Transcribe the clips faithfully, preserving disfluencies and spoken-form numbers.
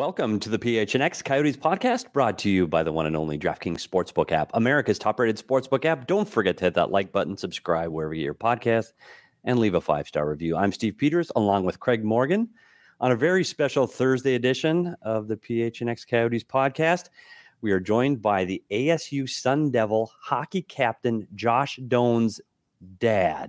Welcome to the P H N X Coyotes podcast, brought to you by the one and only DraftKings Sportsbook app, America's top-rated sportsbook app. Don't forget to hit that like button, subscribe wherever you get your podcast, and leave a five-star review. I'm Steve Peters, along with Craig Morgan, on a very special Thursday edition of the P H N X Coyotes podcast. We are joined by the A S U Sun Devil hockey captain, Josh Doan's dad,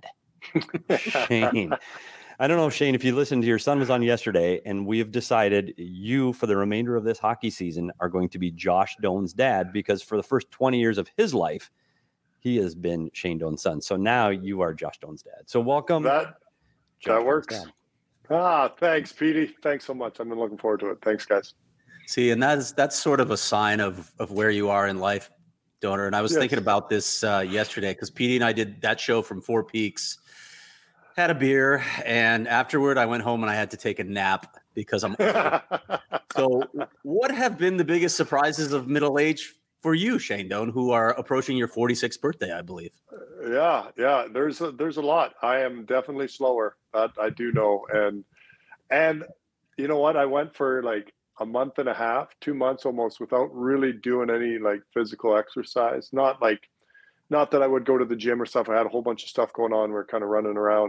Shane. I don't know, Shane, if you listened to your son was on yesterday, and we have decided you, for the remainder of this hockey season, are going to be Josh Doan's dad, because for the first twenty years of his life, he has been Shane Doan's son. So now you are Josh Doan's dad. So welcome. That, Josh that works. Ah, thanks, Petey. Thanks so much. I've been looking forward to it. Thanks, guys. See, and that's that's sort of a sign of of where you are in life, Donor. And I was Yes. thinking about this uh, yesterday because Petey and I did that show from Four Peaks. Had a beer, and afterward I went home and I had to take a nap because I'm old. So what have been the biggest surprises of middle age for you, Shane Doan, who are approaching your forty-sixth birthday, I believe? yeah, yeah. There's a, there's a lot. I am definitely slower. That I do know. And and you know what? I went for like a month and a half, two months almost, without really doing any like physical exercise. Not like Not that I would go to the gym or stuff. I had a whole bunch of stuff going on. We we're kind of running around.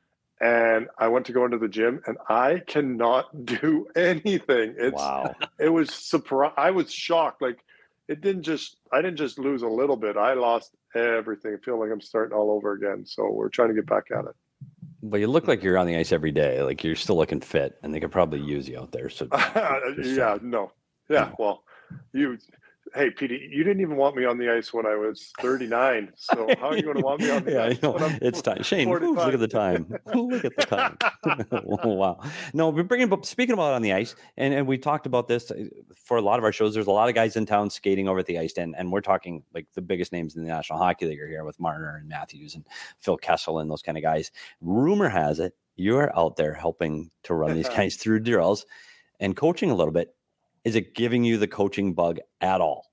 And I went to go into the gym, and I cannot do anything. It's, Wow. It was surprise. I was shocked. Like, it didn't just, I didn't just lose a little bit. I lost everything. I feel like I'm starting all over again. So we're trying to get back at it. But you look like you're on the ice every day. Like, you're still looking fit, and they could probably use you out there. So yeah, no. Yeah, well, you... Hey, Petey, you didn't even want me on the ice when I was thirty-nine. So how are you going to want me on the yeah, ice? I know. When I'm It's time. Shane, ooh, forty-five? look at the time. Look at the time. Wow. No, we're bringing up, speaking about on the ice, and, and we talked about this for a lot of our shows. There's a lot of guys in town skating over at the ice, and, and we're talking like the biggest names in the National Hockey League are here with Marner and Matthews and Phil Kessel and those kind of guys. Rumor has it you're out there helping to run these guys through drills and coaching a little bit. Is it giving you the coaching bug at all?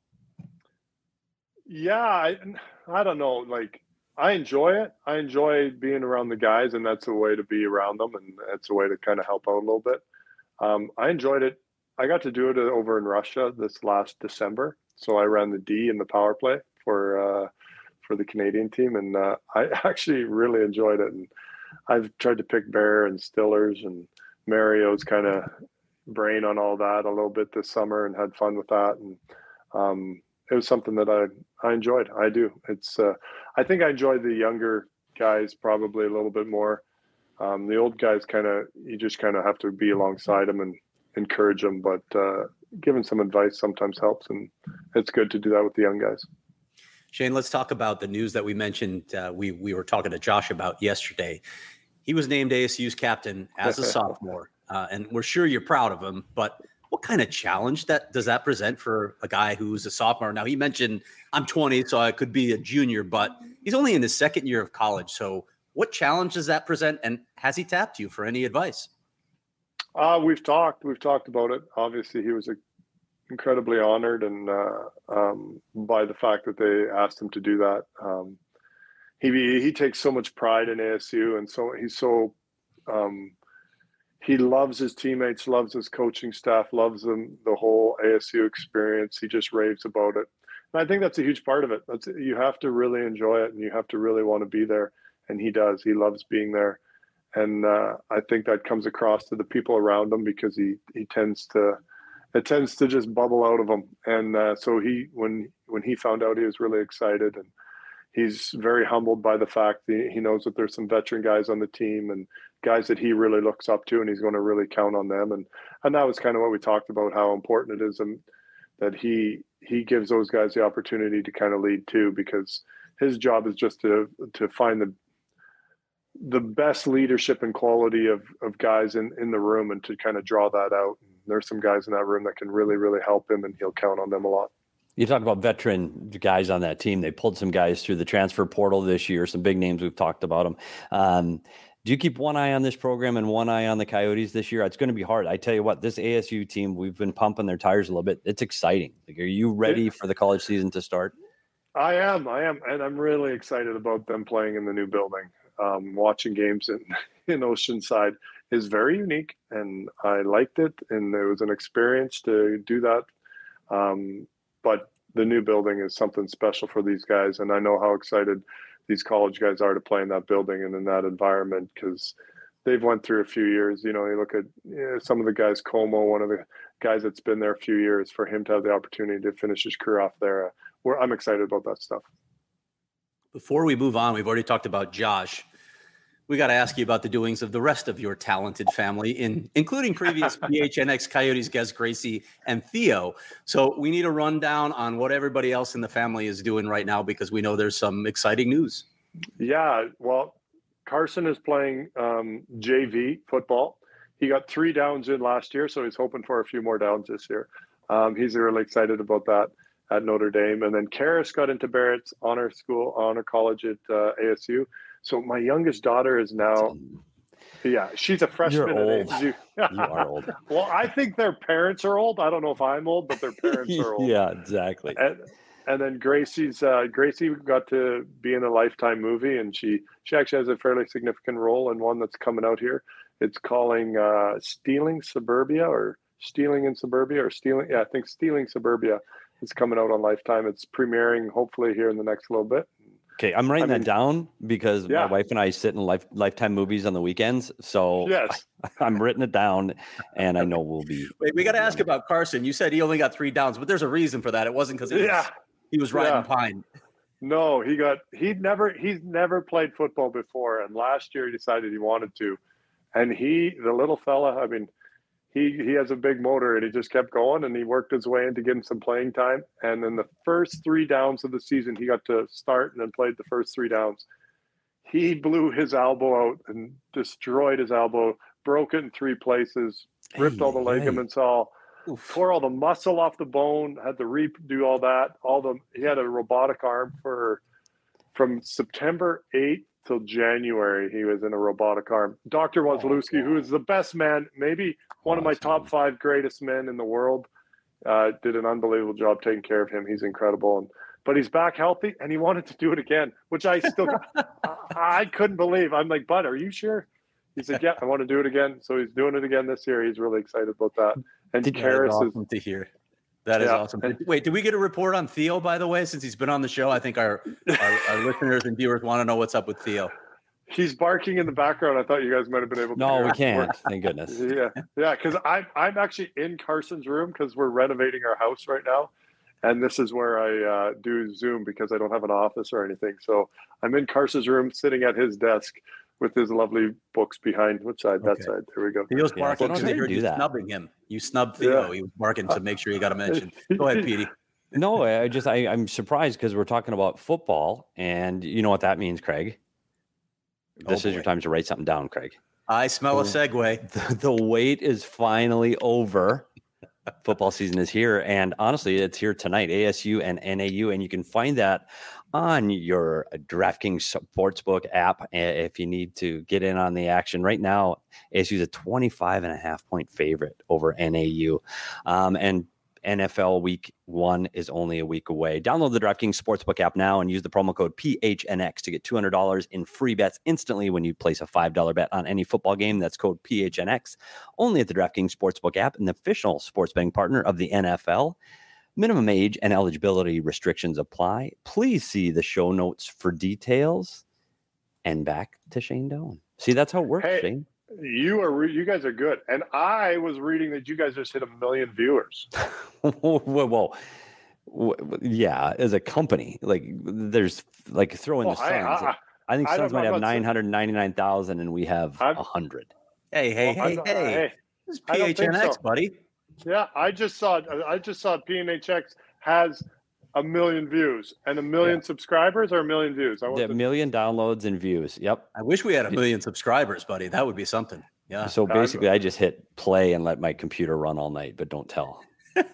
Yeah, I, I don't know. Like, I enjoy it. I enjoy being around the guys, and that's a way to be around them, and that's a way to kind of help out a little bit. Um, I enjoyed it. I got to do it over in Russia this last December. So I ran the D in the power play for uh, for the Canadian team, and uh, I actually really enjoyed it. And I've tried to pick Bear and Stillers and Mario's kind of brain on all that a little bit this summer, and had fun with that. And um, it was something that I I enjoyed. I do. It's uh, I think I enjoy the younger guys probably a little bit more. Um, the old guys kind of, you just kind of have to be alongside them and encourage them, but uh, giving some advice sometimes helps, and it's good to do that with the young guys. Shane, let's talk about the news that we mentioned. Uh, we we were talking to Josh about yesterday. He was named A S U's captain as a sophomore, uh, and we're sure you're proud of him. But what kind of challenge that does that present for a guy who's a sophomore? Now, he mentioned I'm twenty, so I could be a junior, but he's only in his second year of college. So what challenge does that present, and has he tapped you for any advice? Uh, we've talked. We've talked about it. Obviously, he was a, incredibly honored and uh, um, by the fact that they asked him to do that. Um, he he takes so much pride in A S U, and so he's so um, he loves his teammates, loves his coaching staff, loves them, the whole A S U experience. He just raves about it, and I think that's a huge part of it. That's you have to really enjoy it, and you have to really want to be there. And he does. He loves being there. And uh, I think that comes across to the people around him, because he, he tends to, it tends to just bubble out of him. And uh, so he, when, when he found out, he was really excited, and he's very humbled by the fact that he knows that there's some veteran guys on the team and guys that he really looks up to, and he's going to really count on them. And, and that was kind of what we talked about, how important it is, and that he, he gives those guys the opportunity to kind of lead too, because his job is just to, to find the, the best leadership and quality of, of guys in, in the room, and to kind of draw that out. And there's some guys in that room that can really, really help him, and he'll count on them a lot. You talk about veteran guys on that team. They pulled some guys through the transfer portal this year, some big names. We've talked about them. Um, do you keep one eye on this program and one eye on the Coyotes this year? It's going to be hard. I tell you what, this A S U team, we've been pumping their tires a little bit. It's exciting. Like, are you ready for the college season to start? I am. I am. And I'm really excited about them playing in the new building. um, watching games in, in Oceanside is very unique, and I liked it, and it was an experience to do that. Um, but the new building is something special for these guys, and I know how excited these college guys are to play in that building and in that environment, because they've went through a few years. You know, you look at you know, some of the guys, Como, one of the guys that's been there a few years, for him to have the opportunity to finish his career off there. Uh, we're, I'm excited about that stuff. Before we move on, we've already talked about Josh. We got to ask you about the doings of the rest of your talented family, in including previous P H N X Coyotes guests Gracie and Theo. So we need a rundown on what everybody else in the family is doing right now, because we know there's some exciting news. Yeah, well, Carson is playing um, J V football. He got three downs in last year, so he's hoping for a few more downs this year. Um, he's really excited about that at Notre Dame. And then Karis got into Barrett's honor school, honor college at uh, A S U. So my youngest daughter is now, yeah, she's a freshman. You're old. At A S U. You are old. Well, I think their parents are old. I don't know if I'm old, but their parents are old. Yeah, exactly. And, and then Gracie's uh, Gracie got to be in a Lifetime movie, and she she actually has a fairly significant role in one that's coming out here. It's calling uh, Stealing Suburbia, or Stealing in Suburbia, or Stealing. Yeah, I think Stealing Suburbia is coming out on Lifetime. It's premiering hopefully here in the next little bit. Okay, I'm writing I mean, that down because yeah. my wife and I sit in life, Lifetime movies on the weekends. So yes, I'm written it down, and I know we'll be. Wait, we got to ask about Carson. You said he only got three downs, but there's a reason for that. It wasn't because he, yeah. he was riding Yeah. pine. No, he got he'd never he's never played football before, and last year he decided he wanted to, and he the little fella. I mean, he he has a big motor, and he just kept going, and he worked his way into getting some playing time. And then the first three downs of the season, he got to start and then played the first three downs. He blew his elbow out and destroyed his elbow, broke it in three places, ripped all the Hey, hey. ligaments all. Oof. Tore all the muscle off the bone, had to redo all that. All the he had a robotic arm for from September eighth till January. He was in a robotic arm. Doctor Wazlewski, who is the best man, maybe one of my top five greatest men in the world, uh, did an unbelievable job taking care of him. He's incredible, and but he's back healthy, and he wanted to do it again, which I still I, I couldn't believe. I'm like, bud, are you sure? He said, yeah, I want to do it again. So he's doing it again this year. He's really excited about that. And Did- Karis is Awesome to hear. That is Yeah. awesome. Wait, did we get a report on Theo, by the way, since he's been on the show? I think our, our, our listeners and viewers want to know what's up with Theo. He's barking in the background. I thought you guys might have been able to No, hear we it. can't. Thank goodness. Yeah, yeah, because I'm I'm actually in Carson's room because we're renovating our house right now, and this is where I uh, do Zoom because I don't have an office or anything. So I'm in Carson's room, sitting at his desk with his lovely books behind. Which side? That Okay. side. There we go. Theo's Yeah, barking I don't because know he how to heard do you that. snubbing him. You snubbed Theo. Yeah. He was barking to make sure you got a mention. Go ahead, Petey. No, I just I, I'm surprised because we're talking about football, and you know what that means, Craig. This Oh, is your boy. time to write something down, Craig. I smell a Oh. segue. The, the wait is finally over. Football season is here, and honestly, it's here tonight. A S U and N A U, and you can find that on your DraftKings Sportsbook app uh, if you need to get in on the action. Right now, A S U is a twenty-five and a half point favorite over N A U, um, and N F L Week One is only a week away. Download the DraftKings Sportsbook app now and use the promo code P H N X to get two hundred dollars in free bets instantly when you place a five dollar bet on any football game. That's code P H N X. Only at the DraftKings Sportsbook app, an official sports betting partner of the N F L. Minimum age and eligibility restrictions apply. Please see the show notes for details. And back to Shane Doan. See, that's how it works, Hey. Shane. You are re- you guys are good, and I was reading that you guys just hit a million viewers. whoa, whoa, whoa. W- w- Yeah, as a company, like there's like throw in Well, the I, Suns. I, I, think I Suns don't- might I'm have not saying- nine hundred ninety-nine thousand, and we have I'm- one hundred. Hey, hey, well, I'm hey, not- hey. This is I don't think P H N X, so. buddy. Yeah, I just saw I just saw P N H X has a million views and a million subscribers or a million views. I want A to, million downloads and views. Yep. I wish we had a million subscribers, buddy. That would be something. Yeah. So I'm- basically, I just hit play and let my computer run all night, but don't tell.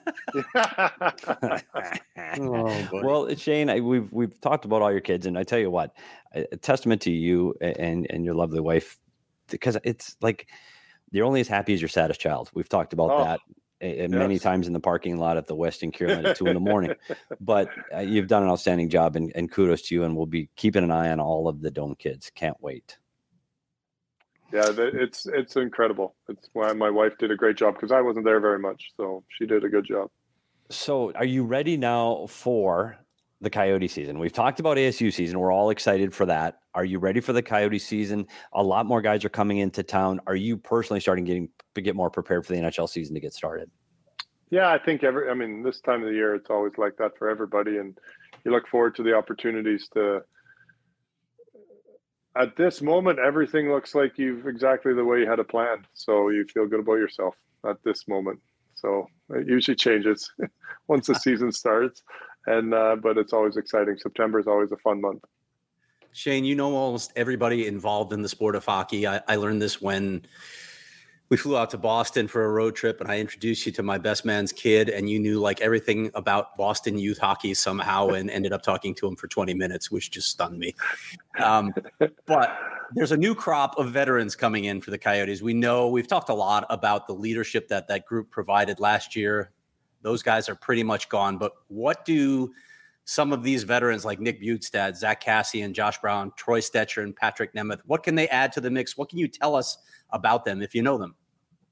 Oh, boy. Well, Shane, I, we've we've talked about all your kids, and I tell you what, a, a testament to you and and your lovely wife, because it's like you're only as happy as your saddest child. We've talked about Oh. that uh, many yes. times in the parking lot at the Westin Kierland at two in the morning. But uh, you've done an outstanding job, and, and kudos to you. And we'll be keeping an eye on all of the Dome kids. Can't wait. Yeah, it's it's incredible. It's why my wife did a great job because I wasn't there very much, so she did a good job. So, are you ready now for the Coyote season? We've talked about A S U season. We're all excited for that. Are you ready for the Coyote season? A lot more guys are coming into town. Are you personally starting getting to get more prepared for the N H L season to get started? Yeah, I think every. I mean, this time of the year, it's always like that for everybody, and you look forward to the opportunities to. At this moment, everything looks like you've exactly the way you had it planned. So you feel good about yourself at this moment. So it usually changes once the season starts. And uh, but it's always exciting. September is always a fun month. Shane, you know almost everybody involved in the sport of hockey. I, I learned this when we flew out to Boston for a road trip, and I introduced you to my best man's kid, and you knew like everything about Boston youth hockey somehow, and ended up talking to him for twenty minutes, which just stunned me. Um, but there's a new crop of veterans coming in for the Coyotes. We know we've talked a lot about the leadership that that group provided last year. Those guys are pretty much gone. But what do some of these veterans like Nick Bjugstad, Zach Kassian, Josh Brown, Troy Stecher, and Patrick Nemeth, what can they add to the mix? What can you tell us about them if you know them?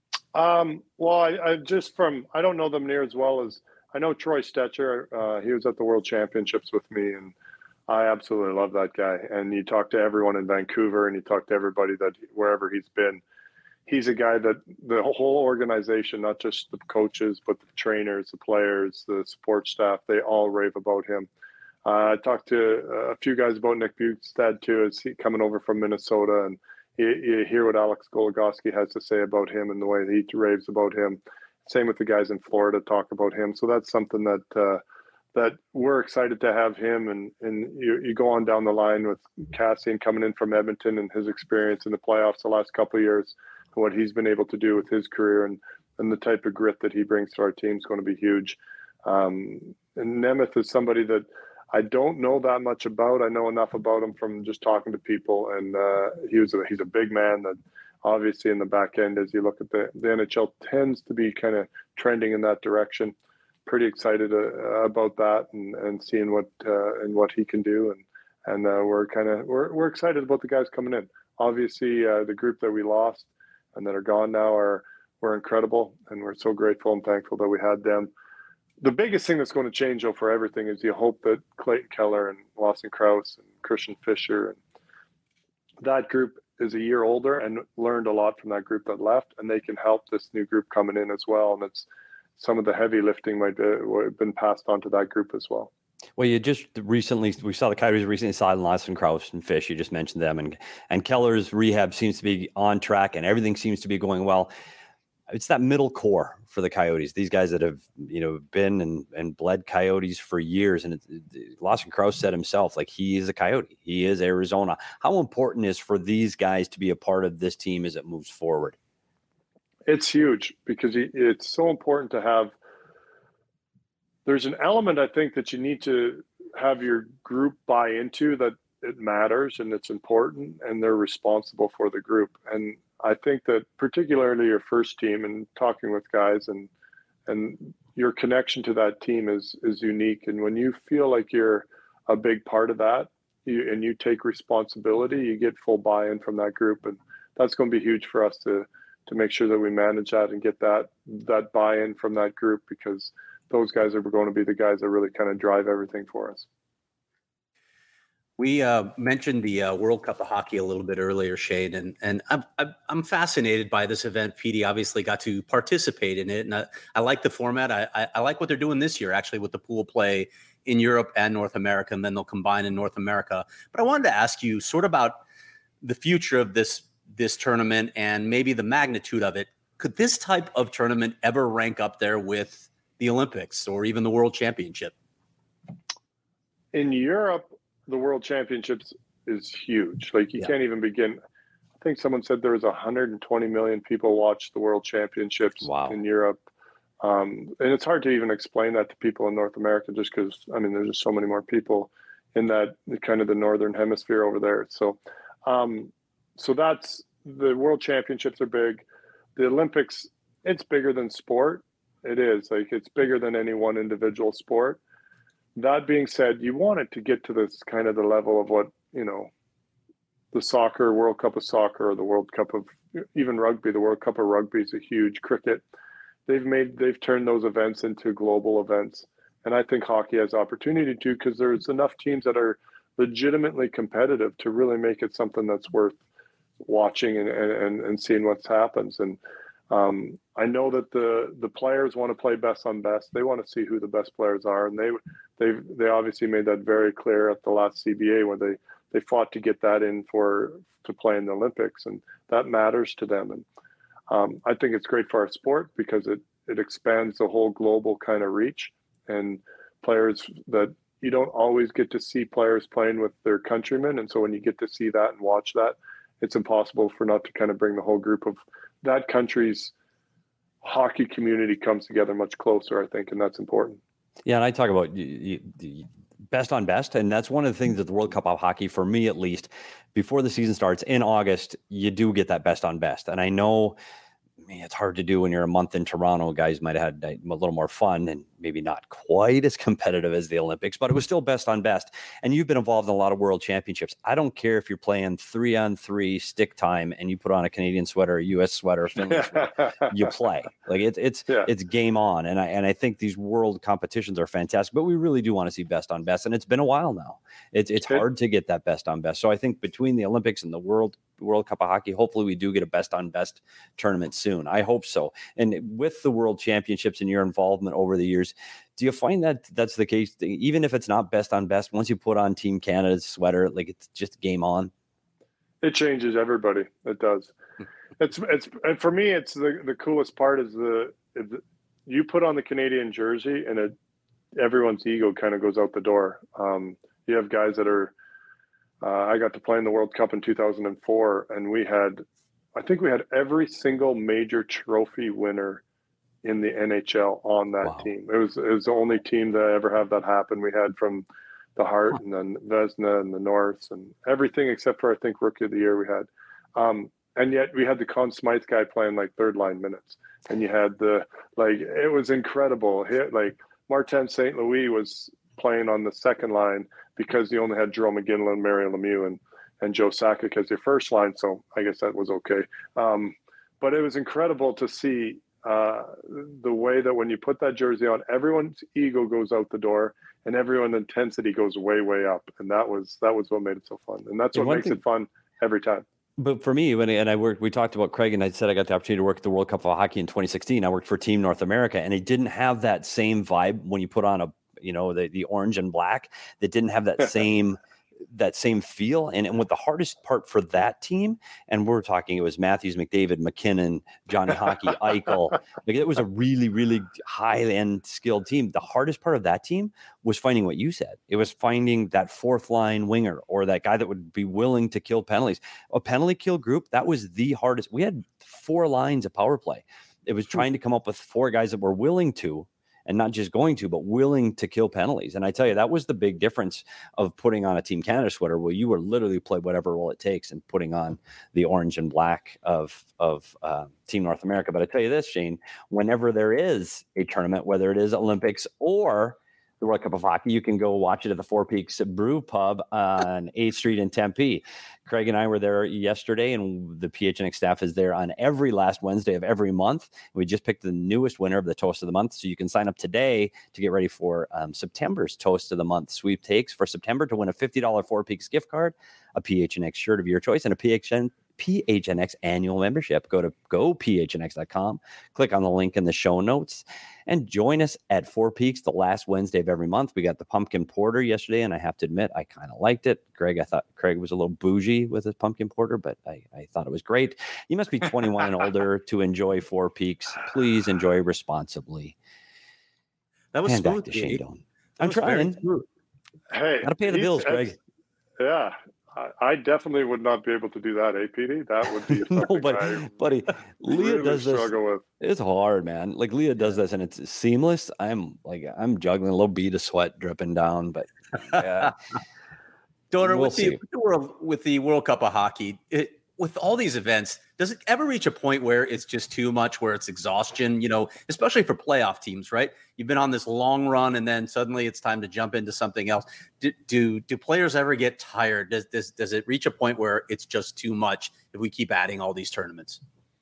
Um, well, I, I just from, I don't know them near as well as I know Troy Stecher. Uh, he was at the World Championships with me, and I absolutely love that guy. And you talk to everyone in Vancouver, and you talk to everybody that wherever he's been, he's a guy that the whole organization, not just the coaches, but the trainers, the players, the support staff, they all rave about him. Uh, I talked to a few guys about Nick Bjugstad too, as he coming over from Minnesota, and you, you hear what Alex Goligoski has to say about him and the way he raves about him. Same with the guys in Florida talk about him. So that's something that uh, that we're excited to have him. And and you, you go on down the line with Kassian coming in from Edmonton and his experience in the playoffs the last couple of years, and what he's been able to do with his career, and, and the type of grit that he brings to our team is going to be huge. Um, and Nemeth is somebody that I don't know that much about. I know enough about him from just talking to people, and uh, he was a, he's a big man that obviously in the back end, as you look at the, the N H L tends to be kind of trending in that direction. Pretty excited uh, about that, and, and seeing what uh, and what he can do, and and uh, we're kind of we're we're excited about the guys coming in. Obviously, uh, the group that we lost and that are gone now are were incredible, and we're so grateful and thankful that we had them. The biggest thing that's going to change, though, for everything is you hope that Clayton Keller and Lawson Krause and Christian Fischer and that group is a year older and learned a lot from that group that left, and they can help this new group coming in as well. And it's some of the heavy lifting might have been passed on to that group as well. Well, you just recently, we saw the Coyotes recently signed Lawson Krause and Fish. You just mentioned them, and and Keller's rehab seems to be on track, and everything seems to be going well. It's that middle core for the Coyotes. These guys that have, you know, been and, and bled Coyotes for years. And it, it, Lawson Krause said himself, like, he is a Coyote. He is Arizona. How important is for these guys to be a part of this team as it moves forward? It's huge because it's so important to have. There's an element, I think, that you need to have your group buy into, that it matters and it's important, and they're responsible for the group. And I think that particularly your first team, and talking with guys, and and your connection to that team is is unique. And when you feel like you're a big part of that, you, and you take responsibility, you get full buy-in from that group, and that's going to be huge for us to to make sure that we manage that and get that that buy-in from that group, because those guys are going to be the guys that really kind of drive everything for us. We uh, mentioned the uh, World Cup of Hockey a little bit earlier, Shane, and and I'm I'm fascinated by this event. Petey obviously got to participate in it, and I, I like the format. I, I I like what they're doing this year, actually, with the pool play in Europe and North America, and then they'll combine in North America. But I wanted to ask you sort of about the future of this this tournament and maybe the magnitude of it. Could this type of tournament ever rank up there with the Olympics or even the World Championship? In Europe, the World Championships is huge. Like, you yeah. can't even begin. I think someone said there was one hundred twenty million people watch the World Championships wow. in Europe. Um, and it's hard to even explain that to people in North America, just because, I mean, there's just so many more people in that kind of the Northern Hemisphere over there. So, um, so that's, the World Championships are big. The Olympics, it's bigger than sport. It is. Like, it's bigger than any one individual sport. That being said, you want it to get to this kind of the level of what, you know, the soccer, World Cup of soccer, or the World Cup of even rugby. The World Cup of rugby is a huge. Cricket. They've made, they've turned those events into global events. And I think hockey has opportunity to, because there's enough teams that are legitimately competitive to really make it something that's worth watching and, and, and seeing what happens. And um, I know that the, the players want to play best on best. They want to see who the best players are. And they, they, they obviously made that very clear at the last C B A, where they, they fought to get that in for, to play in the Olympics. And that matters to them. And um, I think it's great for our sport, because it, it expands the whole global kind of reach, and players that you don't always get to see players playing with their countrymen. And so when you get to see that and watch that, it's impossible for not to kind of bring the whole group of that country's hockey community comes together much closer, I think. And that's important. Yeah. And I talk about you, you, best on best. And that's one of the things that the World Cup of Hockey, for me at least, before the season starts in August, you do get that best on best. And I know, I mean, it's hard to do when you're a month in Toronto. Guys might have had a little more fun and maybe not quite as competitive as the Olympics, but it was still best on best. And you've been involved in a lot of world championships. I don't care if you're playing three on three stick time and you put on a Canadian sweater, a U S sweater, a Finland sweater, you play. Like it's it's yeah. it's game on. And I and I think these world competitions are fantastic, but we really do want to see best on best. And it's been a while now. It's it's hard to get that best on best. So I think between the Olympics and the World World Cup of Hockey, hopefully we do get a best on best tournament soon. I hope so. And with the World Championships and your involvement over the years, do you find that that's the case? Even if it's not best on best, once you put on Team Canada's sweater, like it's just game on. It changes everybody. It does. It's it's and for me, it's the the coolest part is the, the you put on the Canadian jersey and it, everyone's ego kind of goes out the door. Um, you have guys that are. Uh, I got to play in the World Cup in two thousand four, and we had, I think we had every single major trophy winner in the N H L on that wow. team. It was it was the only team that ever had that happen. We had from the Hart huh. and then Vezina and the Norths and everything except for, I think, Rookie of the Year we had. Um, and yet we had the Conn Smythe guy playing like third line minutes. And you had the, like, it was incredible. Hit like Martin Saint Louis was playing on the second line because you only had Jerome McGinley and Mario Lemieux and, and Joe Sakic as your first line. So I guess that was okay. Um, but it was incredible to see uh, the way that when you put that jersey on, everyone's ego goes out the door and everyone's intensity goes way, way up. And that was, that was what made it so fun. And that's what makes thing, it fun every time. But for me, when and I worked, we talked about Craig, and I said I got the opportunity to work at the World Cup of Hockey in twenty sixteen. I worked for Team North America, and it didn't have that same vibe when you put on a, you know, the, the orange and black, that didn't have that same, that same feel. And, and what the hardest part for that team, and we're talking, it was Matthews, McDavid, McKinnon, Johnny Hockey, Eichel. Like, it was a really, really high end skilled team. The hardest part of that team was finding what you said. It was finding that fourth line winger or that guy that would be willing to kill penalties. A penalty kill group, that was the hardest. We had four lines of power play. It was trying to come up with four guys that were willing to, and not just going to, but willing to kill penalties. And I tell you, that was the big difference of putting on a Team Canada sweater, where you were literally play whatever role it takes, and putting on the orange and black of of uh, Team North America. But I tell you this, Shane, whenever there is a tournament, whether it is Olympics or the World Cup of Hockey, you can go watch it at the Four Peaks Brew Pub on eighth Street in Tempe. Craig and I were there yesterday, and the P H N X staff is there on every last Wednesday of every month. We just picked the newest winner of the Toast of the Month, so you can sign up today to get ready for um, September's Toast of the Month sweepstakes for September to win a fifty dollars Four Peaks gift card, a P H N X shirt of your choice, and a P H N P H N X annual membership. Go to go P H N X dot com, click on the link in the show notes, and join us at Four Peaks the last Wednesday of every month. We got the pumpkin porter yesterday, and I have to admit, I kind of liked it. Greg, I thought Craig was a little bougie with his pumpkin porter, but I, I thought it was great. You must be twenty-one and older to enjoy Four Peaks. Please enjoy responsibly. That was and smooth. Back to Shane Doan. I'm trying. Hey, gotta pay the bills, Craig. Yeah. I definitely would not be able to do that, eh, P D? That would be no, but I buddy, Leah really does this. With. It's hard, man. Like Leah does this, and it's seamless. I'm like, I'm juggling a little bead of sweat dripping down, but yeah. Donor, we'll with, the, with the world with the World Cup of Hockey, it, with all these events, Does it ever reach a point where it's just too much, where it's exhaustion, you know, especially for playoff teams, right? You've been on this long run and then suddenly it's time to jump into something else. Do do, do players ever get tired? Does, does, does it reach a point where it's just too much if we keep adding all these tournaments?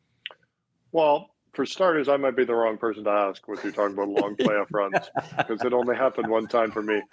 Well, for starters, I might be the wrong person to ask what you're talking about long playoff runs, because it only happened one time for me.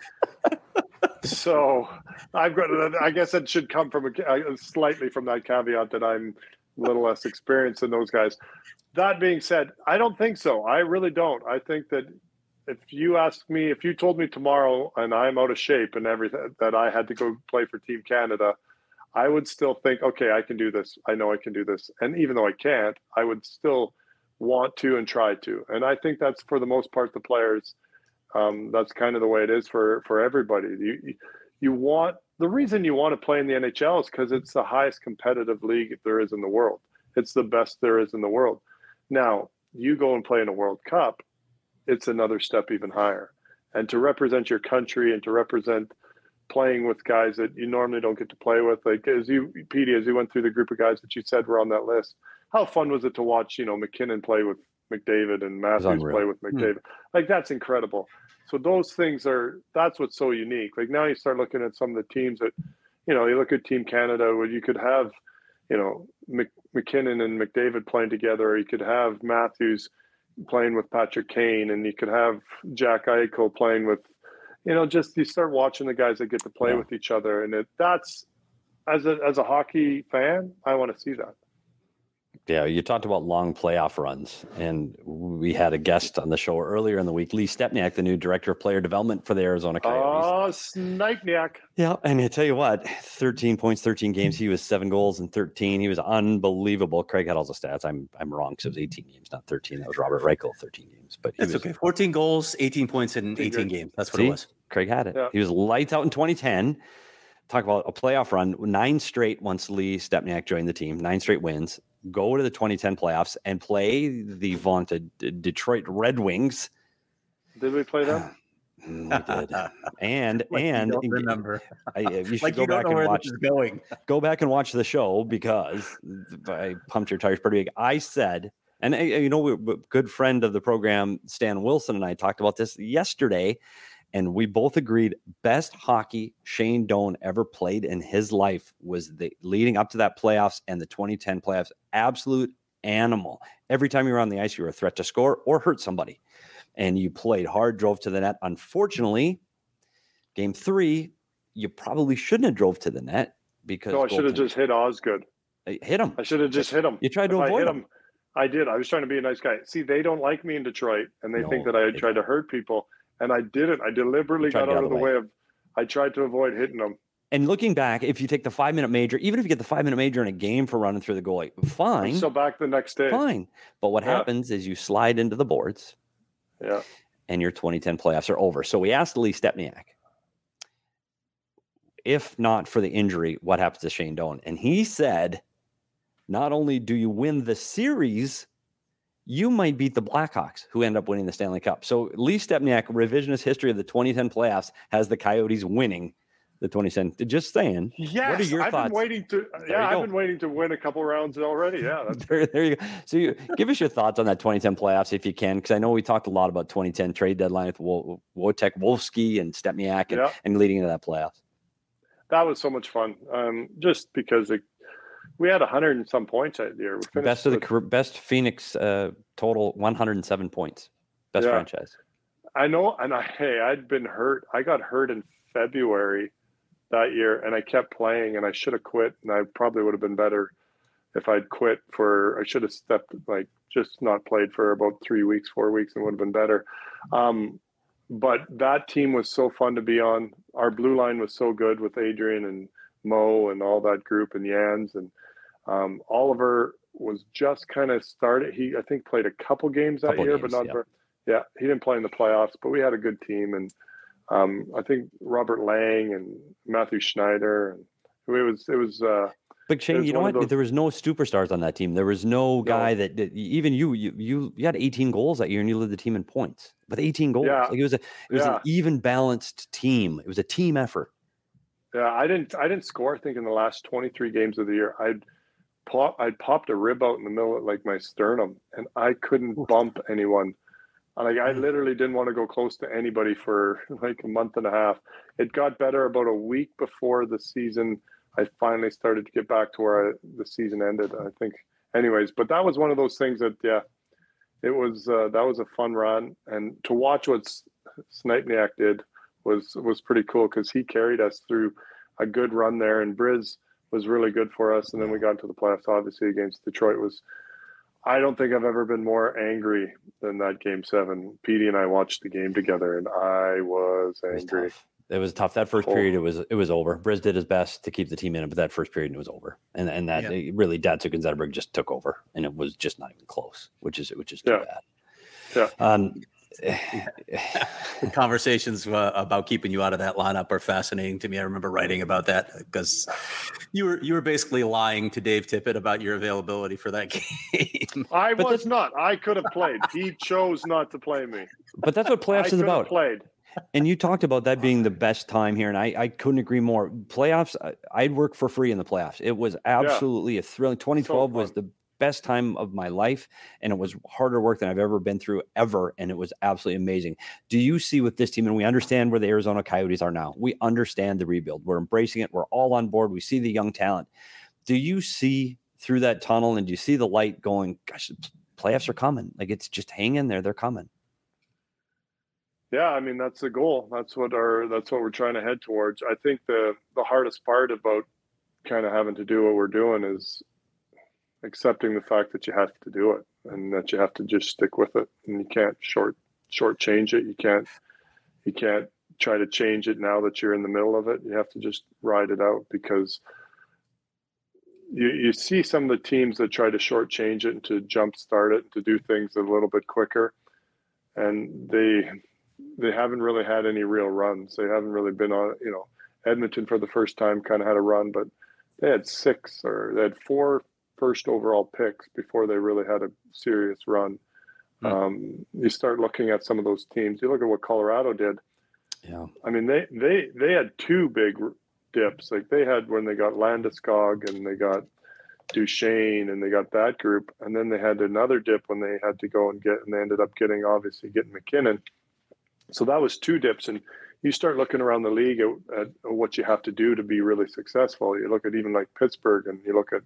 So I've got, I guess it should come from a, slightly from that caveat that I'm a little less experienced than those guys. That being said, I don't think so. I really don't. I think that if you ask me, if you told me tomorrow and I'm out of shape and everything, that I had to go play for Team Canada, I would still think, okay, I can do this. I know I can do this. And even though I can't, I would still want to and try to. And I think that's for the most part the players. Um, that's kind of the way it is for for everybody. You you want the reason you want to play in the N H L is because it's the highest competitive league there is in the world. It's the best there is in the world. Now you go and play in a World Cup, it's another step even higher. And to represent your country and to represent playing with guys that you normally don't get to play with, like as you, Petey, as you went through the group of guys that you said were on that list. How fun was it to watch, you know, McKinnon play with McDavid and Matthews play with McDavid? Hmm. Like, that's incredible. So those things are, that's what's so unique. Like now you start looking at some of the teams that, you know, you look at Team Canada where you could have, you know, Mc, McKinnon and McDavid playing together, or you could have Matthews playing with Patrick Kane, and you could have Jack Eichel playing with, you know, just you start watching the guys that get to play yeah. with each other. And it, that's, as a, as a hockey fan, I want to see that. Yeah, you talked about long playoff runs, and we had a guest on the show earlier in the week, Lee Stepniak, the new director of player development for the Arizona Coyotes. Oh, Snipeniak. Yeah, and I tell you what, thirteen points, thirteen games. He was seven goals and thirteen. He was unbelievable. Craig had all the stats. I'm I'm wrong because it was eighteen games, not thirteen. That was Robert Reichel, thirteen games. But he That's was, okay. fourteen goals, eighteen points in eighteen games. That's what See, it was. Craig had it. Yeah. He was lights out in twenty ten. Talk about a playoff run, nine straight once Lee Stepniak joined the team, nine straight wins. Go to the twenty ten playoffs and play the vaunted Detroit Red Wings. Did we play them? we did. And like and you don't remember. I, you should like go you back don't know and where watch. this is going. Go back and watch the show, because I pumped your tires pretty big. I said, and you know, we, good friend of the program, Stan Wilson, and I talked about this yesterday. And we both agreed best hockey Shane Doan ever played in his life was the leading up to that playoffs and the twenty ten playoffs. Absolute animal. Every time you were on the ice, you were a threat to score or hurt somebody. And you played hard, drove to the net. Unfortunately, game three, you probably shouldn't have drove to the net because no, I should have just hit Osgood. Hit him. I should have just hit him. You tried to if avoid I hit him. him. I did. I was trying to be a nice guy. See, they don't like me in Detroit, and they No, think that I they tried to hurt people. And I didn't. I deliberately got out of the way. way of, I tried to avoid hitting them. And looking back, if you take the five-minute major, even if you get the five-minute major in a game for running through the goalie, fine. I'm so back the next day. Fine. But what Yeah. happens is you slide into the boards. Yeah. And your twenty ten playoffs are over. So we asked Lee Stepniak, if not for the injury, what happens to Shane Doan? And he said, not only do you win the series, you might beat the Blackhawks, who end up winning the Stanley Cup. So Lee Stepniak, revisionist history of the twenty ten playoffs, has the Coyotes winning the twenty ten. Just saying. Yes, what are your I've thoughts? been waiting to. There yeah, you I've go. been waiting to win a couple rounds already. Yeah, that's there, there you go. So you, give us your thoughts on that twenty ten playoffs if you can, because I know we talked a lot about twenty ten trade deadline with Wo- Wojtek Wolski and Stepniak and, Yeah. and leading into that playoffs. that was so much fun. Um, just because it, we had a hundred and some points that year. We finished Best of the with- career- best Phoenix uh, total, one hundred seven points. Best Yeah. franchise. I know, and I hey, I'd been hurt. I got hurt in February that year, and I kept playing, and I should have quit, and I probably would have been better if I'd quit for. I should have stepped like just not played for about three weeks, four weeks, and would have been better. Um, but that team was so fun to be on. Our blue line was so good with Adrian and Mo and all that group and Jans, and um, Oliver was just kind of started. He I think played a couple games that Couple year, games, but not yeah. very. Yeah, he didn't play in the playoffs, but we had a good team, and um, I think Robert Lang and Matthew Schneider, and it was it was. Uh, But Shane, was you know one what? of those- There was no superstars on that team. There was no guy that, that even you, you, you, you had eighteen goals that year, and you led the team in points with eighteen goals. Yeah. Like it was a, it was Yeah. an even balanced team. It was a team effort. yeah, I didn't I didn't score. I think in the last twenty-three games of the year, I'd pop, I popped a rib out in the middle of like my sternum, and I couldn't bump anyone. Like I literally didn't want to go close to anybody for like a month and a half. It got better about a week before the season. I finally started to get back to where I, the season ended, I think. Anyways, but that was one of those things that, yeah, it was, uh, that was a fun run. And to watch what Stempniak did was, was pretty cool because he carried us through a good run there, and Briz was really good for us. And then we got into the playoffs, obviously, against Detroit. Was I don't think I've ever been more angry than that game seven. Petey and I watched the game together, and I was angry. It was tough. It was tough. That first oh. period, it was it was over. Briz did his best to keep the team in it, but that first period, it was over. And and that yeah. it really, Datsuk and Zetterberg just took over, and it was just not even close, which is which is too yeah. bad. Yeah. Um, the conversations uh, about keeping you out of that lineup are fascinating to me. I remember writing about that because you were you were basically lying to Dave Tippett about your availability for that game. I but was not. I could have played. He chose not to play me. But that's what playoffs I is about. Played. And you talked about that being the best time here, and I, I couldn't agree more. Playoffs, I'd work for free in the playoffs. It was absolutely yeah. a thrilling. twenty twelve so was the best time of my life, and it was harder work than I've ever been through ever, and it was absolutely amazing. Do you see with this team, and we understand where the Arizona Coyotes are now, we understand the rebuild, we're embracing it, we're all on board, we see the young talent. Do you see through that tunnel, and do you see the light going, gosh, playoffs are coming, like it's just hang in there, they're coming? Yeah, I mean, that's the goal. That's what our that's what we're trying to head towards. I think the the hardest part about kind of having to do what we're doing is accepting the fact that you have to do it, and that you have to just stick with it, and you can't short short change it. You can't you can't try to change it now that you're in the middle of it. You have to just ride it out, because you you see some of the teams that try to short change it and to jumpstart it and to do things a little bit quicker, and they they haven't really had any real runs. They haven't really been on, you know, Edmonton for the first time kind of had a run, but they had six or they had four first overall picks before they really had a serious run. Mm. Um, you start looking at some of those teams. You look at what Colorado did. Yeah, I mean, they they they had two big dips. Like they had when they got Landeskog and they got Duchesne and they got that group, and then they had another dip when they had to go and get, and they ended up getting obviously getting McKinnon. So that was two dips, and you start looking around the league at, at what you have to do to be really successful. You look at even like Pittsburgh, and you look at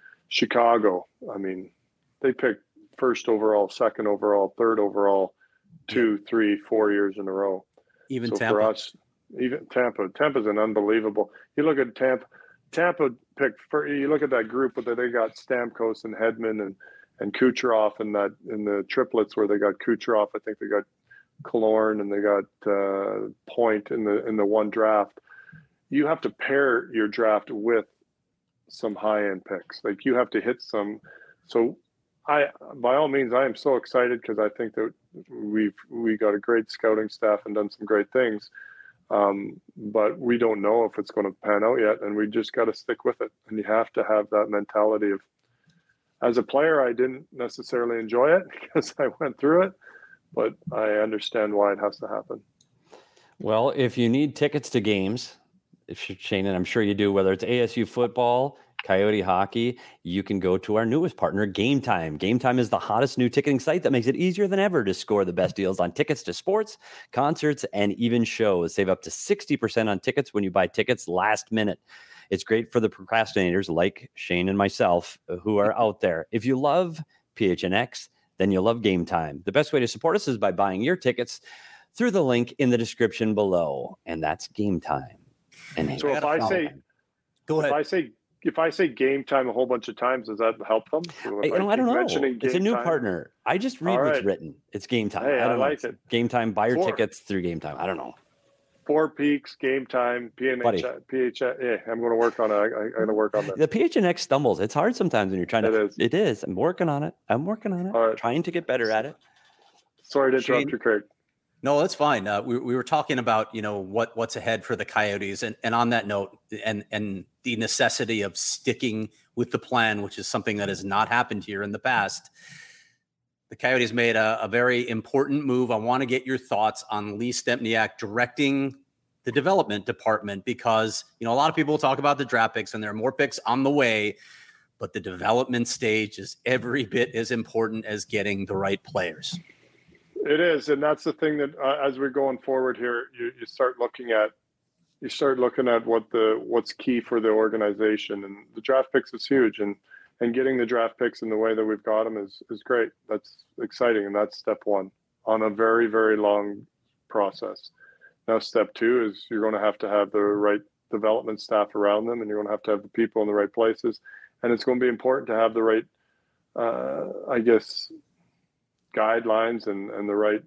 Chicago. I mean, they picked first overall, second overall, third overall, two, three, four years in a row. Even so Tampa. For us, even Tampa. Tampa's an unbelievable. You look at Tampa. Tampa picked. For, you look at that group, but they got Stamkos and Hedman and and Kucherov, and that in the triplets where they got Kucherov. I think they got Killorn and they got uh, Point in the in the one draft. You have to pair your draft with some high end picks. Like you have to hit some. So I, by all means, I am so excited because I think that we've we got a great scouting staff and done some great things. Um, but we don't know if it's going to pan out yet, and we just got to stick with it. And you have to have that mentality of. As a player, I didn't necessarily enjoy it because I went through it. But I understand why it has to happen. Well, if you need tickets to games, if Shane, and I'm sure you do, whether it's A S U football, Coyote hockey, you can go to our newest partner, Game Time. Game Time is the hottest new ticketing site that makes it easier than ever to score the best deals on tickets to sports, concerts, and even shows. Save up to sixty percent on tickets when you buy tickets last minute. It's great for the procrastinators like Shane and myself who are out there. If you love P H N X, then you'll love Game Time. The best way to support us is by buying your tickets through the link in the description below, and that's Game Time. And so if I say, go ahead. If I say, if I say Game Time a whole bunch of times, does that help them? I, I, don't, I don't know. It's a new time? partner. I just read All what's right. written. It's Game Time. Hey, I, don't I like know. it. Game Time. Buy your Four. tickets through Game Time. I don't know. Four Peaks, Game Time, P N H, P H. Yeah, I'm going to work on it. I, I'm going to work on that. The P H N X stumbles. It's hard sometimes when you're trying to. It is. It is. I'm working on it. I'm working on it. All right. Trying to get better at it. Sorry to interrupt Shane, you, Craig. No, that's fine. Uh, we we were talking about you know what what's ahead for the Coyotes, and and on that note, and and the necessity of sticking with the plan, which is something that has not happened here in the past. The Coyotes made a, a very important move. I want to get your thoughts on Lee Stempniak directing the development department, because, you know, a lot of people talk about the draft picks and there are more picks on the way, but the development stage is every bit as important as getting the right players. It is, and that's the thing that uh, as we're going forward here, you, you start looking at you start looking at what the what's key for the organization, and the draft picks is huge, and and getting the draft picks in the way that we've got them is is great. That's exciting, and that's step one on a very very long process. Now, step two is you're going to have to have the right development staff around them, and you're going to have to have the people in the right places, and it's going to be important to have the right, uh, I guess, guidelines and, and the right,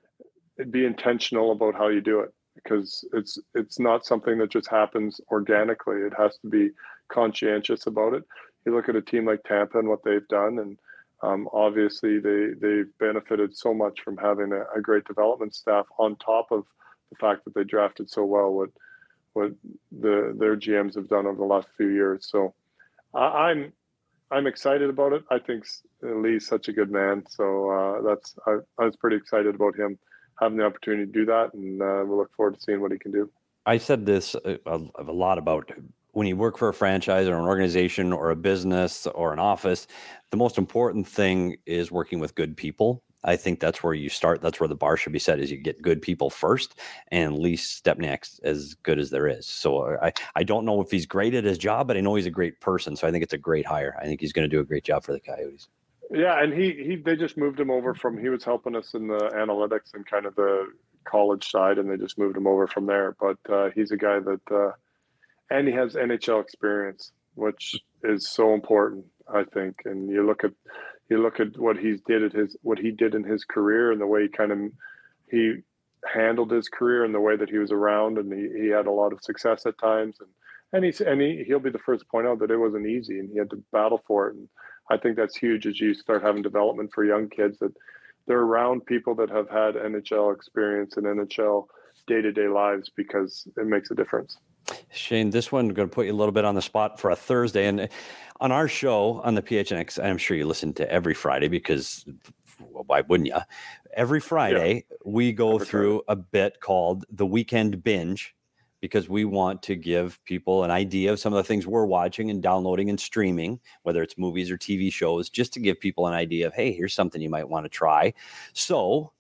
be intentional about how you do it, because it's it's not something that just happens organically. It has to be conscientious about it. You look at a team like Tampa and what they've done, and um, obviously they they've benefited so much from having a, a great development staff on top of the fact that they drafted so well. What what the their G Ms have done over the last few years. So I, I'm. I'm excited about it. I think Lee's such a good man. So uh, that's I, I was pretty excited about him having the opportunity to do that, and uh, we look forward to seeing what he can do. I said this a, a lot about when you work for a franchise or an organization or a business or an office, the most important thing is working with good people. I think that's where you start. That's where the bar should be set, is you get good people first, and Lee Stempniak's as good as there is. So I, I don't know if he's great at his job, but I know he's a great person. So I think it's a great hire. I think he's going to do a great job for the Coyotes. Yeah. And he, he, they just moved him over from, he was helping us in the analytics and kind of the college side, and they just moved him over from there. But uh, he's a guy that, uh, and he has N H L experience, which is so important, I think. And you look at, You look at what he did at his what he did in his career, and the way he kind of he handled his career, and the way that he was around, and he, he had a lot of success at times, and and he's and he he'll be the first to point out that it wasn't easy, and he had to battle for it. And I think that's huge as you start having development for young kids, that they're around people that have had N H L experience and N H L day-to-day lives, because it makes a difference. Shane, this one, I'm going to put you a little bit on the spot for a Thursday. And on our show on the P H N X, I'm sure you listen to every Friday, because well, why wouldn't you? Every Friday, yeah. we go every through Friday. a bit called the Weekend Binge, because we want to give people an idea of some of the things we're watching and downloading and streaming, whether it's movies or T V shows, just to give people an idea of, hey, here's something you might want to try. So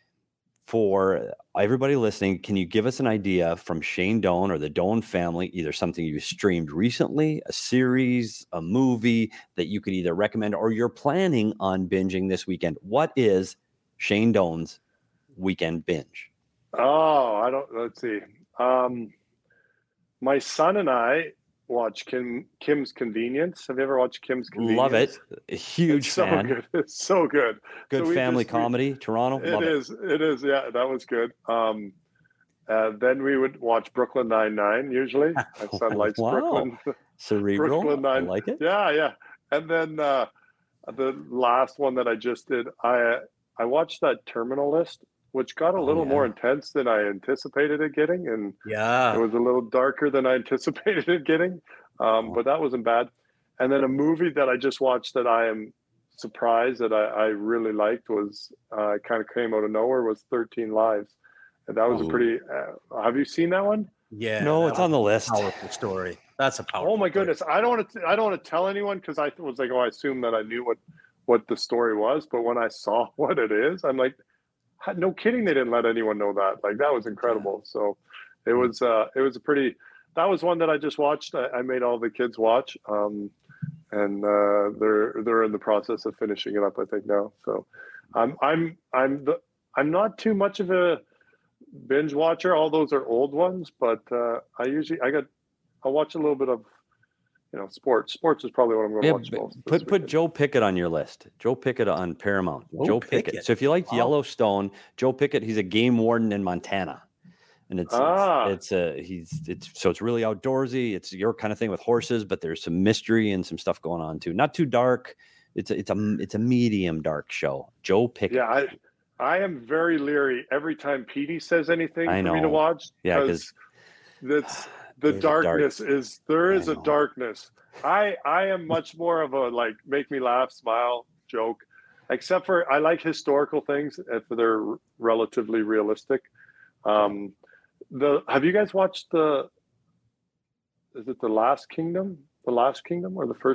for everybody listening, can you give us an idea from Shane Doan or the Doan family, either something you streamed recently, a series, a movie that you could either recommend or you're planning on binging this weekend? What is Shane Doan's Weekend Binge? Oh, I don't, let's see. Um, my son and I watch Kim Kim's Convenience. Have you ever watched Kim's Convenience? Love it. A huge it's fan. So good. It's so good. Good so family just, comedy, we, Toronto. It Love is. It. it is. Yeah, that was good. Um, uh, then we would watch Brooklyn Nine-Nine usually. My son likes wow. Brooklyn. Cerebral. Brooklyn Nine. I like it. Yeah, yeah. And then uh, the last one that I just did, I I watched that Terminal List, which got a Oh, little yeah. more intense than I anticipated it getting. And Yeah. it was a little darker than I anticipated it getting. Um, but that wasn't bad. And then a movie that I just watched that I am surprised that I, I really liked was uh, kind of came out of nowhere was thirteen Lives. And that was Ooh. a pretty, uh, have you seen that one? Yeah. No, it's on the list. Powerful story. That's a powerful Oh my story. goodness. I don't want to, I don't want to tell anyone, because I was like, oh, I assumed that I knew what, what the story was. But when I saw what it is, I'm like, no kidding. They didn't let anyone know that. Like, that was incredible. So it was, uh, it was a pretty, that was one that I just watched. I, I made all the kids watch, um, and uh, they're they're in the process of finishing it up, I think, now. So I'm I'm I'm the I'm not too much of a binge watcher. All those are old ones, but uh, I usually I got I watch a little bit of you know sports. Sports is probably what I'm going to Yeah, watch most. put put Joe Pickett on your list. Joe Pickett on Paramount. Joe Joe Pickett. Pickett. So if you liked Wow. Yellowstone, Joe Pickett, he's a game warden in Montana. And it's, Ah. it's, it's a, he's, it's, so it's really outdoorsy. It's your kind of thing with horses, but there's some mystery and some stuff going on too. Not too dark. It's a, it's a, it's a medium dark show. Joe Pickett. Yeah, I I am very leery every time Petey says anything I for me to know. watch. Yeah, because that's the There's a dark- darkness is there is I a know. darkness. I I am much more of a like make me laugh, smile, joke. Except for I like historical things if they're relatively realistic. Um, the have you guys watched the? Is it the Last Kingdom? The Last Kingdom or the first?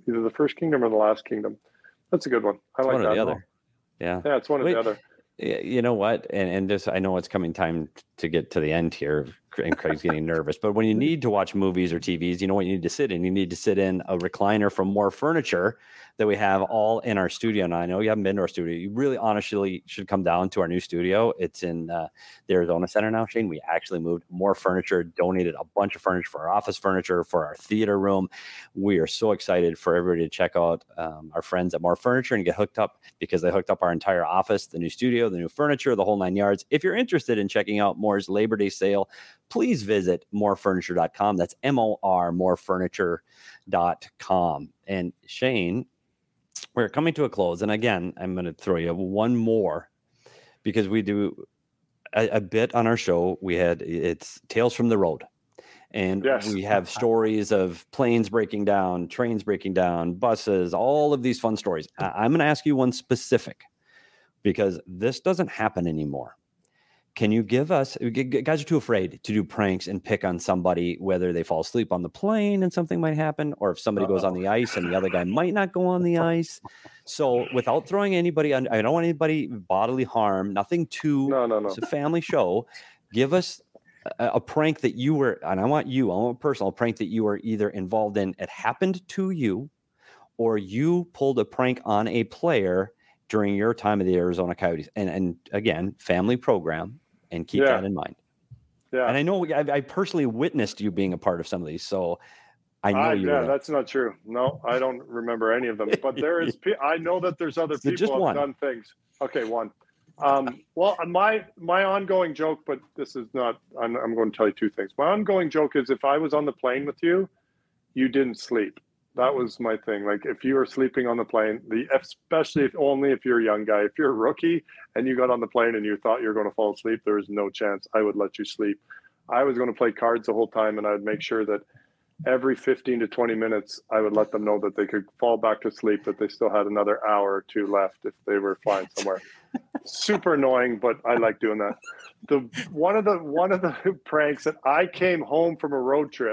either the First Kingdom or the Last Kingdom. That's a good one. I It's like one that. or the No. other. Yeah. Yeah, it's one Wait, or the other. y- you know what? And and this, I know it's coming time to get to the end here, and Craig's getting nervous. But when you need to watch movies or T Vs, you know what you need to sit in? You need to sit in a recliner from More Furniture that we have all in our studio. Now, I know you haven't been to our studio. You really honestly should come down to our new studio. It's in uh, the Arizona Center now, Shane. We actually moved. More Furniture donated a bunch of furniture for our office furniture, for our theater room. We are so excited for everybody to check out um, our friends at More Furniture and get hooked up, because they hooked up our entire office, the new studio, the new furniture, the whole nine yards. If you're interested in checking out Moore's Labor Day sale, please visit more furniture dot com. That's M O R, more furniture dot com. And Shane, we're coming to a close. And again, I'm going to throw you one more, because we do a, a bit on our show. We had, it's Tales from the Road. And Yes. we have stories of planes breaking down, trains breaking down, buses, all of these fun stories. I- I'm going to ask you one specific, because this doesn't happen anymore. Can you give us, g- g- guys are too afraid to do pranks and pick on somebody, whether they fall asleep on the plane and something might happen, or if somebody goes on Uh-oh. the ice and the other guy might not go on the ice. So without throwing anybody on, I don't want anybody bodily harm, nothing too, No, no, no. it's a family show. Give us a, a prank that you were, and I want you, I want a personal prank that you were either involved in, it happened to you, or you pulled a prank on a player during your time of the Arizona Coyotes. And, and again, family program, and keep Yeah. that in mind. Yeah. And I know I, I personally witnessed you being a part of some of these, so I know I, you yeah, were there. that's not true. No, I don't remember any of them. But there is, pe- I know that there's other So people just have one. done things. Okay, one. Um, well, my my ongoing joke, but this is not. I'm, I'm going to tell you two things. My ongoing joke is, if I was on the plane with you, you didn't sleep. That was my thing. Like, if you were sleeping on the plane, the especially if only if you're a young guy. If you're a rookie and you got on the plane and you thought you were going to fall asleep, there was no chance I would let you sleep. I was going to play cards the whole time, and I would make sure that every fifteen to twenty minutes, I would let them know that they could fall back to sleep, that they still had another hour or two left if they were flying somewhere. Super annoying, but I like doing that. The one of the one of the pranks that I came home from a road trip,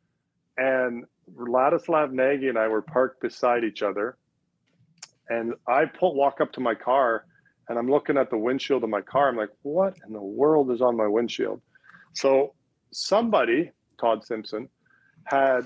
and Ladislav Nagy and I were parked beside each other, and I pull walk up to my car, and I'm looking at the windshield of my car. I'm like, what in the world is on my windshield? So somebody, Todd Simpson, had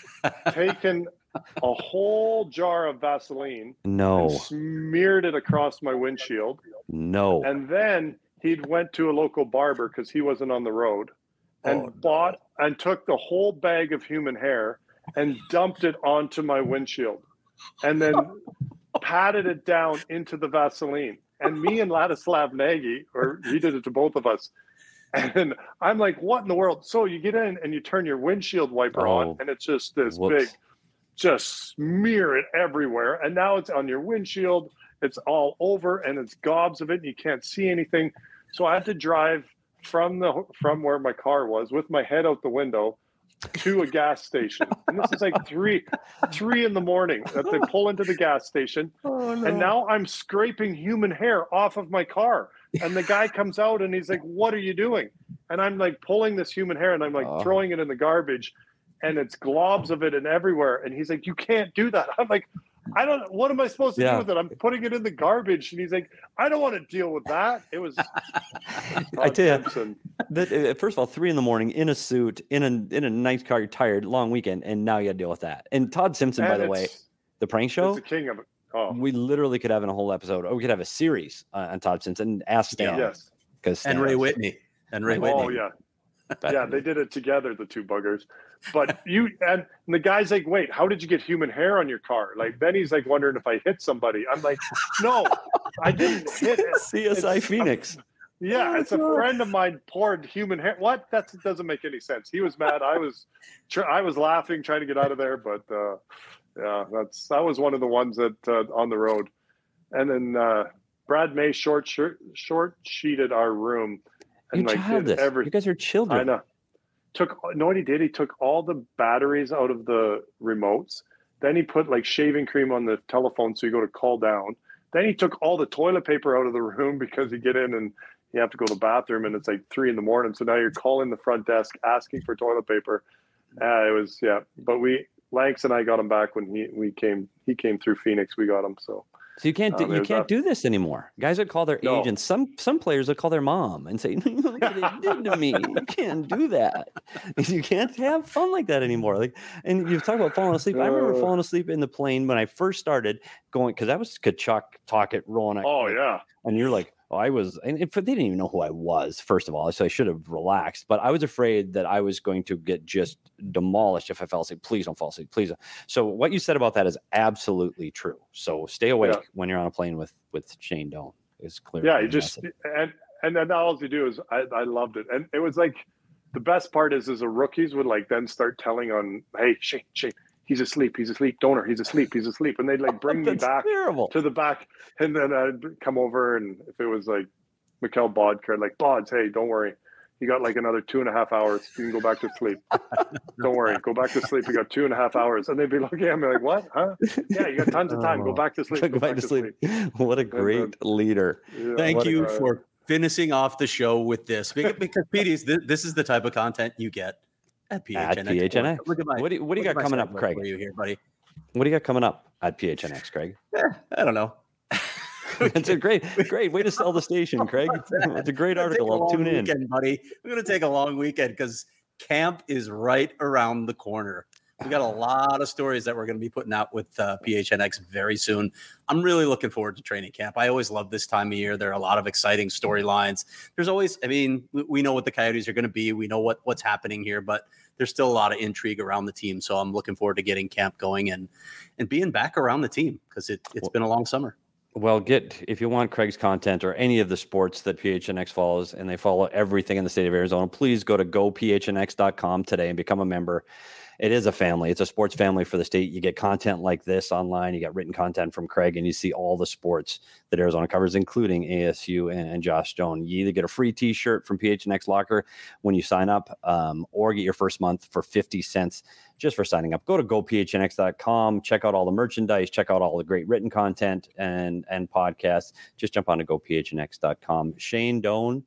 taken a whole jar of Vaseline No, and smeared it across my windshield. no. And then he went to a local barber, because he wasn't on the road, and Oh, no. bought and took the whole bag of human hair and dumped it onto my windshield, and then patted it down into the Vaseline. And me and Ladislav Nagy, or he did it to both of us. And I'm like, what in the world? So you get in and you turn your windshield wiper Oh, on, and it's just this whoops. big, just smear it everywhere. And now it's on your windshield. It's all over, and it's gobs of it, and you can't see anything. So I had to drive from the from where my car was with my head out the window to a gas station. And this is like three three in the morning that they pull into the gas station. Oh, no. And now I'm scraping human hair off of my car. And the guy comes out and he's like, what are you doing? And I'm like pulling this human hair, and I'm like Oh. throwing it in the garbage, and it's globs of it and everywhere. And he's like, you can't do that. I'm like, I don't, what am I supposed to Yeah. do with it? I'm putting it in the garbage. And he's like, I don't want to deal with that. It was, I tell you, Simpson. that, uh, first of all, three in the morning in a suit, in a in a nice car, you're tired, long weekend, and now you got to deal with that. And Todd Simpson, by And the way, it's- the prank show, It's the king of it. Oh, we literally could have a whole episode, or we could have a series uh, on Todd Simpson. Ask Stan, yes. because And Ray Whitney. And Ray Whitney. Oh, yeah. Yeah, they did it together, the two buggers. But you and the guy's like, wait, how did you get human hair on your car? Like, then he's like wondering if I hit somebody. I'm like, no, I didn't hit it. C S I It's- Phoenix. Yeah, Oh, it's a God. friend of mine poured human hair. What? That doesn't make any sense. He was mad. I was, tr- I was laughing, trying to get out of there. But uh, yeah, that's that was one of the ones that uh, on the road. And then uh, Brad May short short short sheeted our room. You're like, did childless. every- You guys are children. I know. Took know what he did? He took all the batteries out of the remotes. Then he put like shaving cream on the telephone so you go to call down. Then he took all the toilet paper out of the room because you get in and you have to go to the bathroom and it's like three in the morning. So now you're calling the front desk asking for toilet paper. Uh, it was yeah, but we Lanks and I got him back when he we came he came through Phoenix. We got him. So So you can't do, um, you can't do this anymore. Guys would call their no. agents. Some some players would call their mom and say, "Look what they did to me. You can't do that. You can't have fun like that anymore." Like, and you've talked about falling asleep. I remember Uh, falling asleep in the plane when I first started going because that was Kachuk, Talkett, Rowan. Oh yeah. And you're like, oh, I was, and it, they didn't even know who I was, first of all. So I should have relaxed, but I was afraid that I was going to get just demolished if I fell asleep. Please don't fall asleep. Please. Don't. So what you said about that is absolutely true. So stay awake Yeah. when you're on a plane with, with Shane Doan is clear. Yeah, you just and and then all you do is I, I loved it, and it was like the best part is is the rookies would like then start telling on, hey Shane, Shane, he's asleep, he's asleep, Donor, he's asleep, he's asleep, and they'd like bring me back terrible. to the back, and then I'd come over, and if it was like Mikkel Bodker, like Bods, hey, don't worry, you got like another two and a half hours, you can go back to sleep. Don't worry, go back to sleep. You got two and a half hours, and they'd be looking at me like, "What? Huh? Yeah, you got tons of time. Go back to sleep. Go, go back, back to sleep. sleep. What a great then, leader! Yeah, Thank you a, for finishing off the show with this because, because P Ds, this, this is the type of content you get at P H N X. At P H N X. Look at my, what do you, what do you got coming up, Craig? For you here, buddy. What do you got coming up at P H N X, Craig? Yeah, I don't know. It's a great, great way to sell the station, Craig. It's a great article. I'll tune in, weekend, buddy. We're going to take a long weekend because camp is right around the corner. We got a lot of stories that we're going to be putting out with uh, P H N X very soon. I'm really looking forward to training camp. I always love this time of year. There are a lot of exciting storylines. There's always, I mean, we, we know what the Coyotes are going to be. We know what what's happening here, but there's still a lot of intrigue around the team. So I'm looking forward to getting camp going and and being back around the team because it, it's been a long summer. Well, get if you want Craig's content or any of the sports that P H N X follows, and they follow everything in the state of Arizona, please go to go p h n x dot com today and become a member. It is a family. It's a sports family for the state. You get content like this online. You got written content from Craig, and you see all the sports that Arizona covers, including A S U and, and Josh Doan. You either get a free T-shirt from P H N X Locker when you sign up, um, or get your first month for fifty cents just for signing up. Go to go p h n x dot com. Check out all the merchandise. Check out all the great written content and and podcasts. Just jump on to go p h n x dot com. Shane Doan,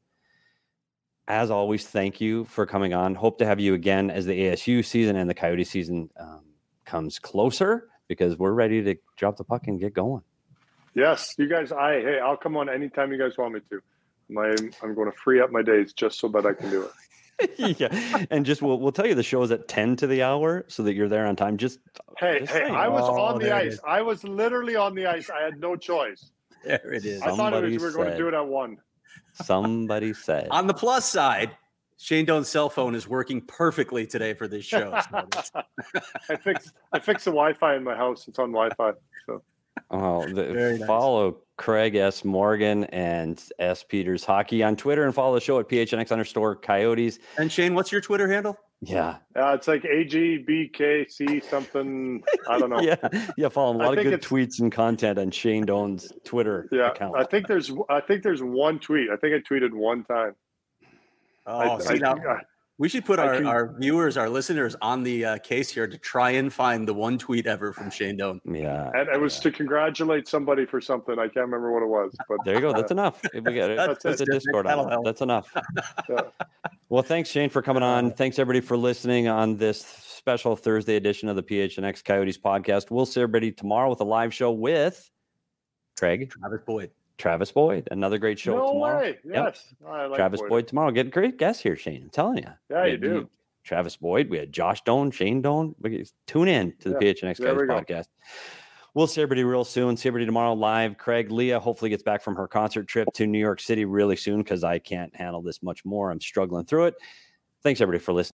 as always, thank you for coming on. Hope to have you again as the A S U season and the Coyote season um, comes closer because we're ready to drop the puck and get going. Yes, you guys. I hey, I'll come on anytime you guys want me to. I'm I'm going to free up my days just so that I can do it. Yeah, and just we'll we'll tell you the show is at ten to the hour so that you're there on time. Just hey just hey, saying. I was Oh, on the there it ice. is. I was literally on the ice. I had no choice. There it is. I thought it was, Somebody we were going to said. do it at one. Somebody said. On the plus side, Shane Doan's cell phone is working perfectly today for this show. So that's- I fixed I fixed the Wi-Fi in my house. It's on Wi-Fi. So Oh, Very the, nice. follow Craig S. Morgan and S. Peters Hockey on Twitter and follow the show at P H N X underscore Coyotes. and Shane, what's your Twitter handle? Yeah. uh, it's like A G B K C something. I don't know. Yeah. Yeah. Follow him. A I lot of think good it's- tweets and content on Shane Doan's Twitter Yeah, account. I think there's I think there's one tweet. I think I tweeted one time. Oh, I, see, I, now, I- we should put I our, can- our viewers, our listeners on the uh, case here to try and find the one tweet ever from Shane Doan. yeah. and it was yeah. to congratulate somebody for something. I can't remember what it was, but There you go. uh, That's enough. If we got it. That's That's it. the Discord That'll on it. help. That's enough. yeah. Well, thanks, Shane, for coming on. Thanks, everybody, for listening on this special Thursday edition of the P H N X Coyotes podcast. We'll see everybody tomorrow with a live show with Craig, Travis Boyd. Travis Boyd. Another great show No tomorrow. way. Yes. I like Travis Boyd. tomorrow. Get a great guest here, Shane. I'm telling you. Yeah, We you had do. Travis Boyd. We had Josh Doan, Shane Doan. We can- Tune in to the Yeah, P H N X there we Coyotes go. podcast. We'll see everybody real soon. See everybody tomorrow live. Craig, Leah hopefully gets back from her concert trip to New York City really soon because I can't handle this much more. I'm struggling through it. Thanks, everybody, for listening.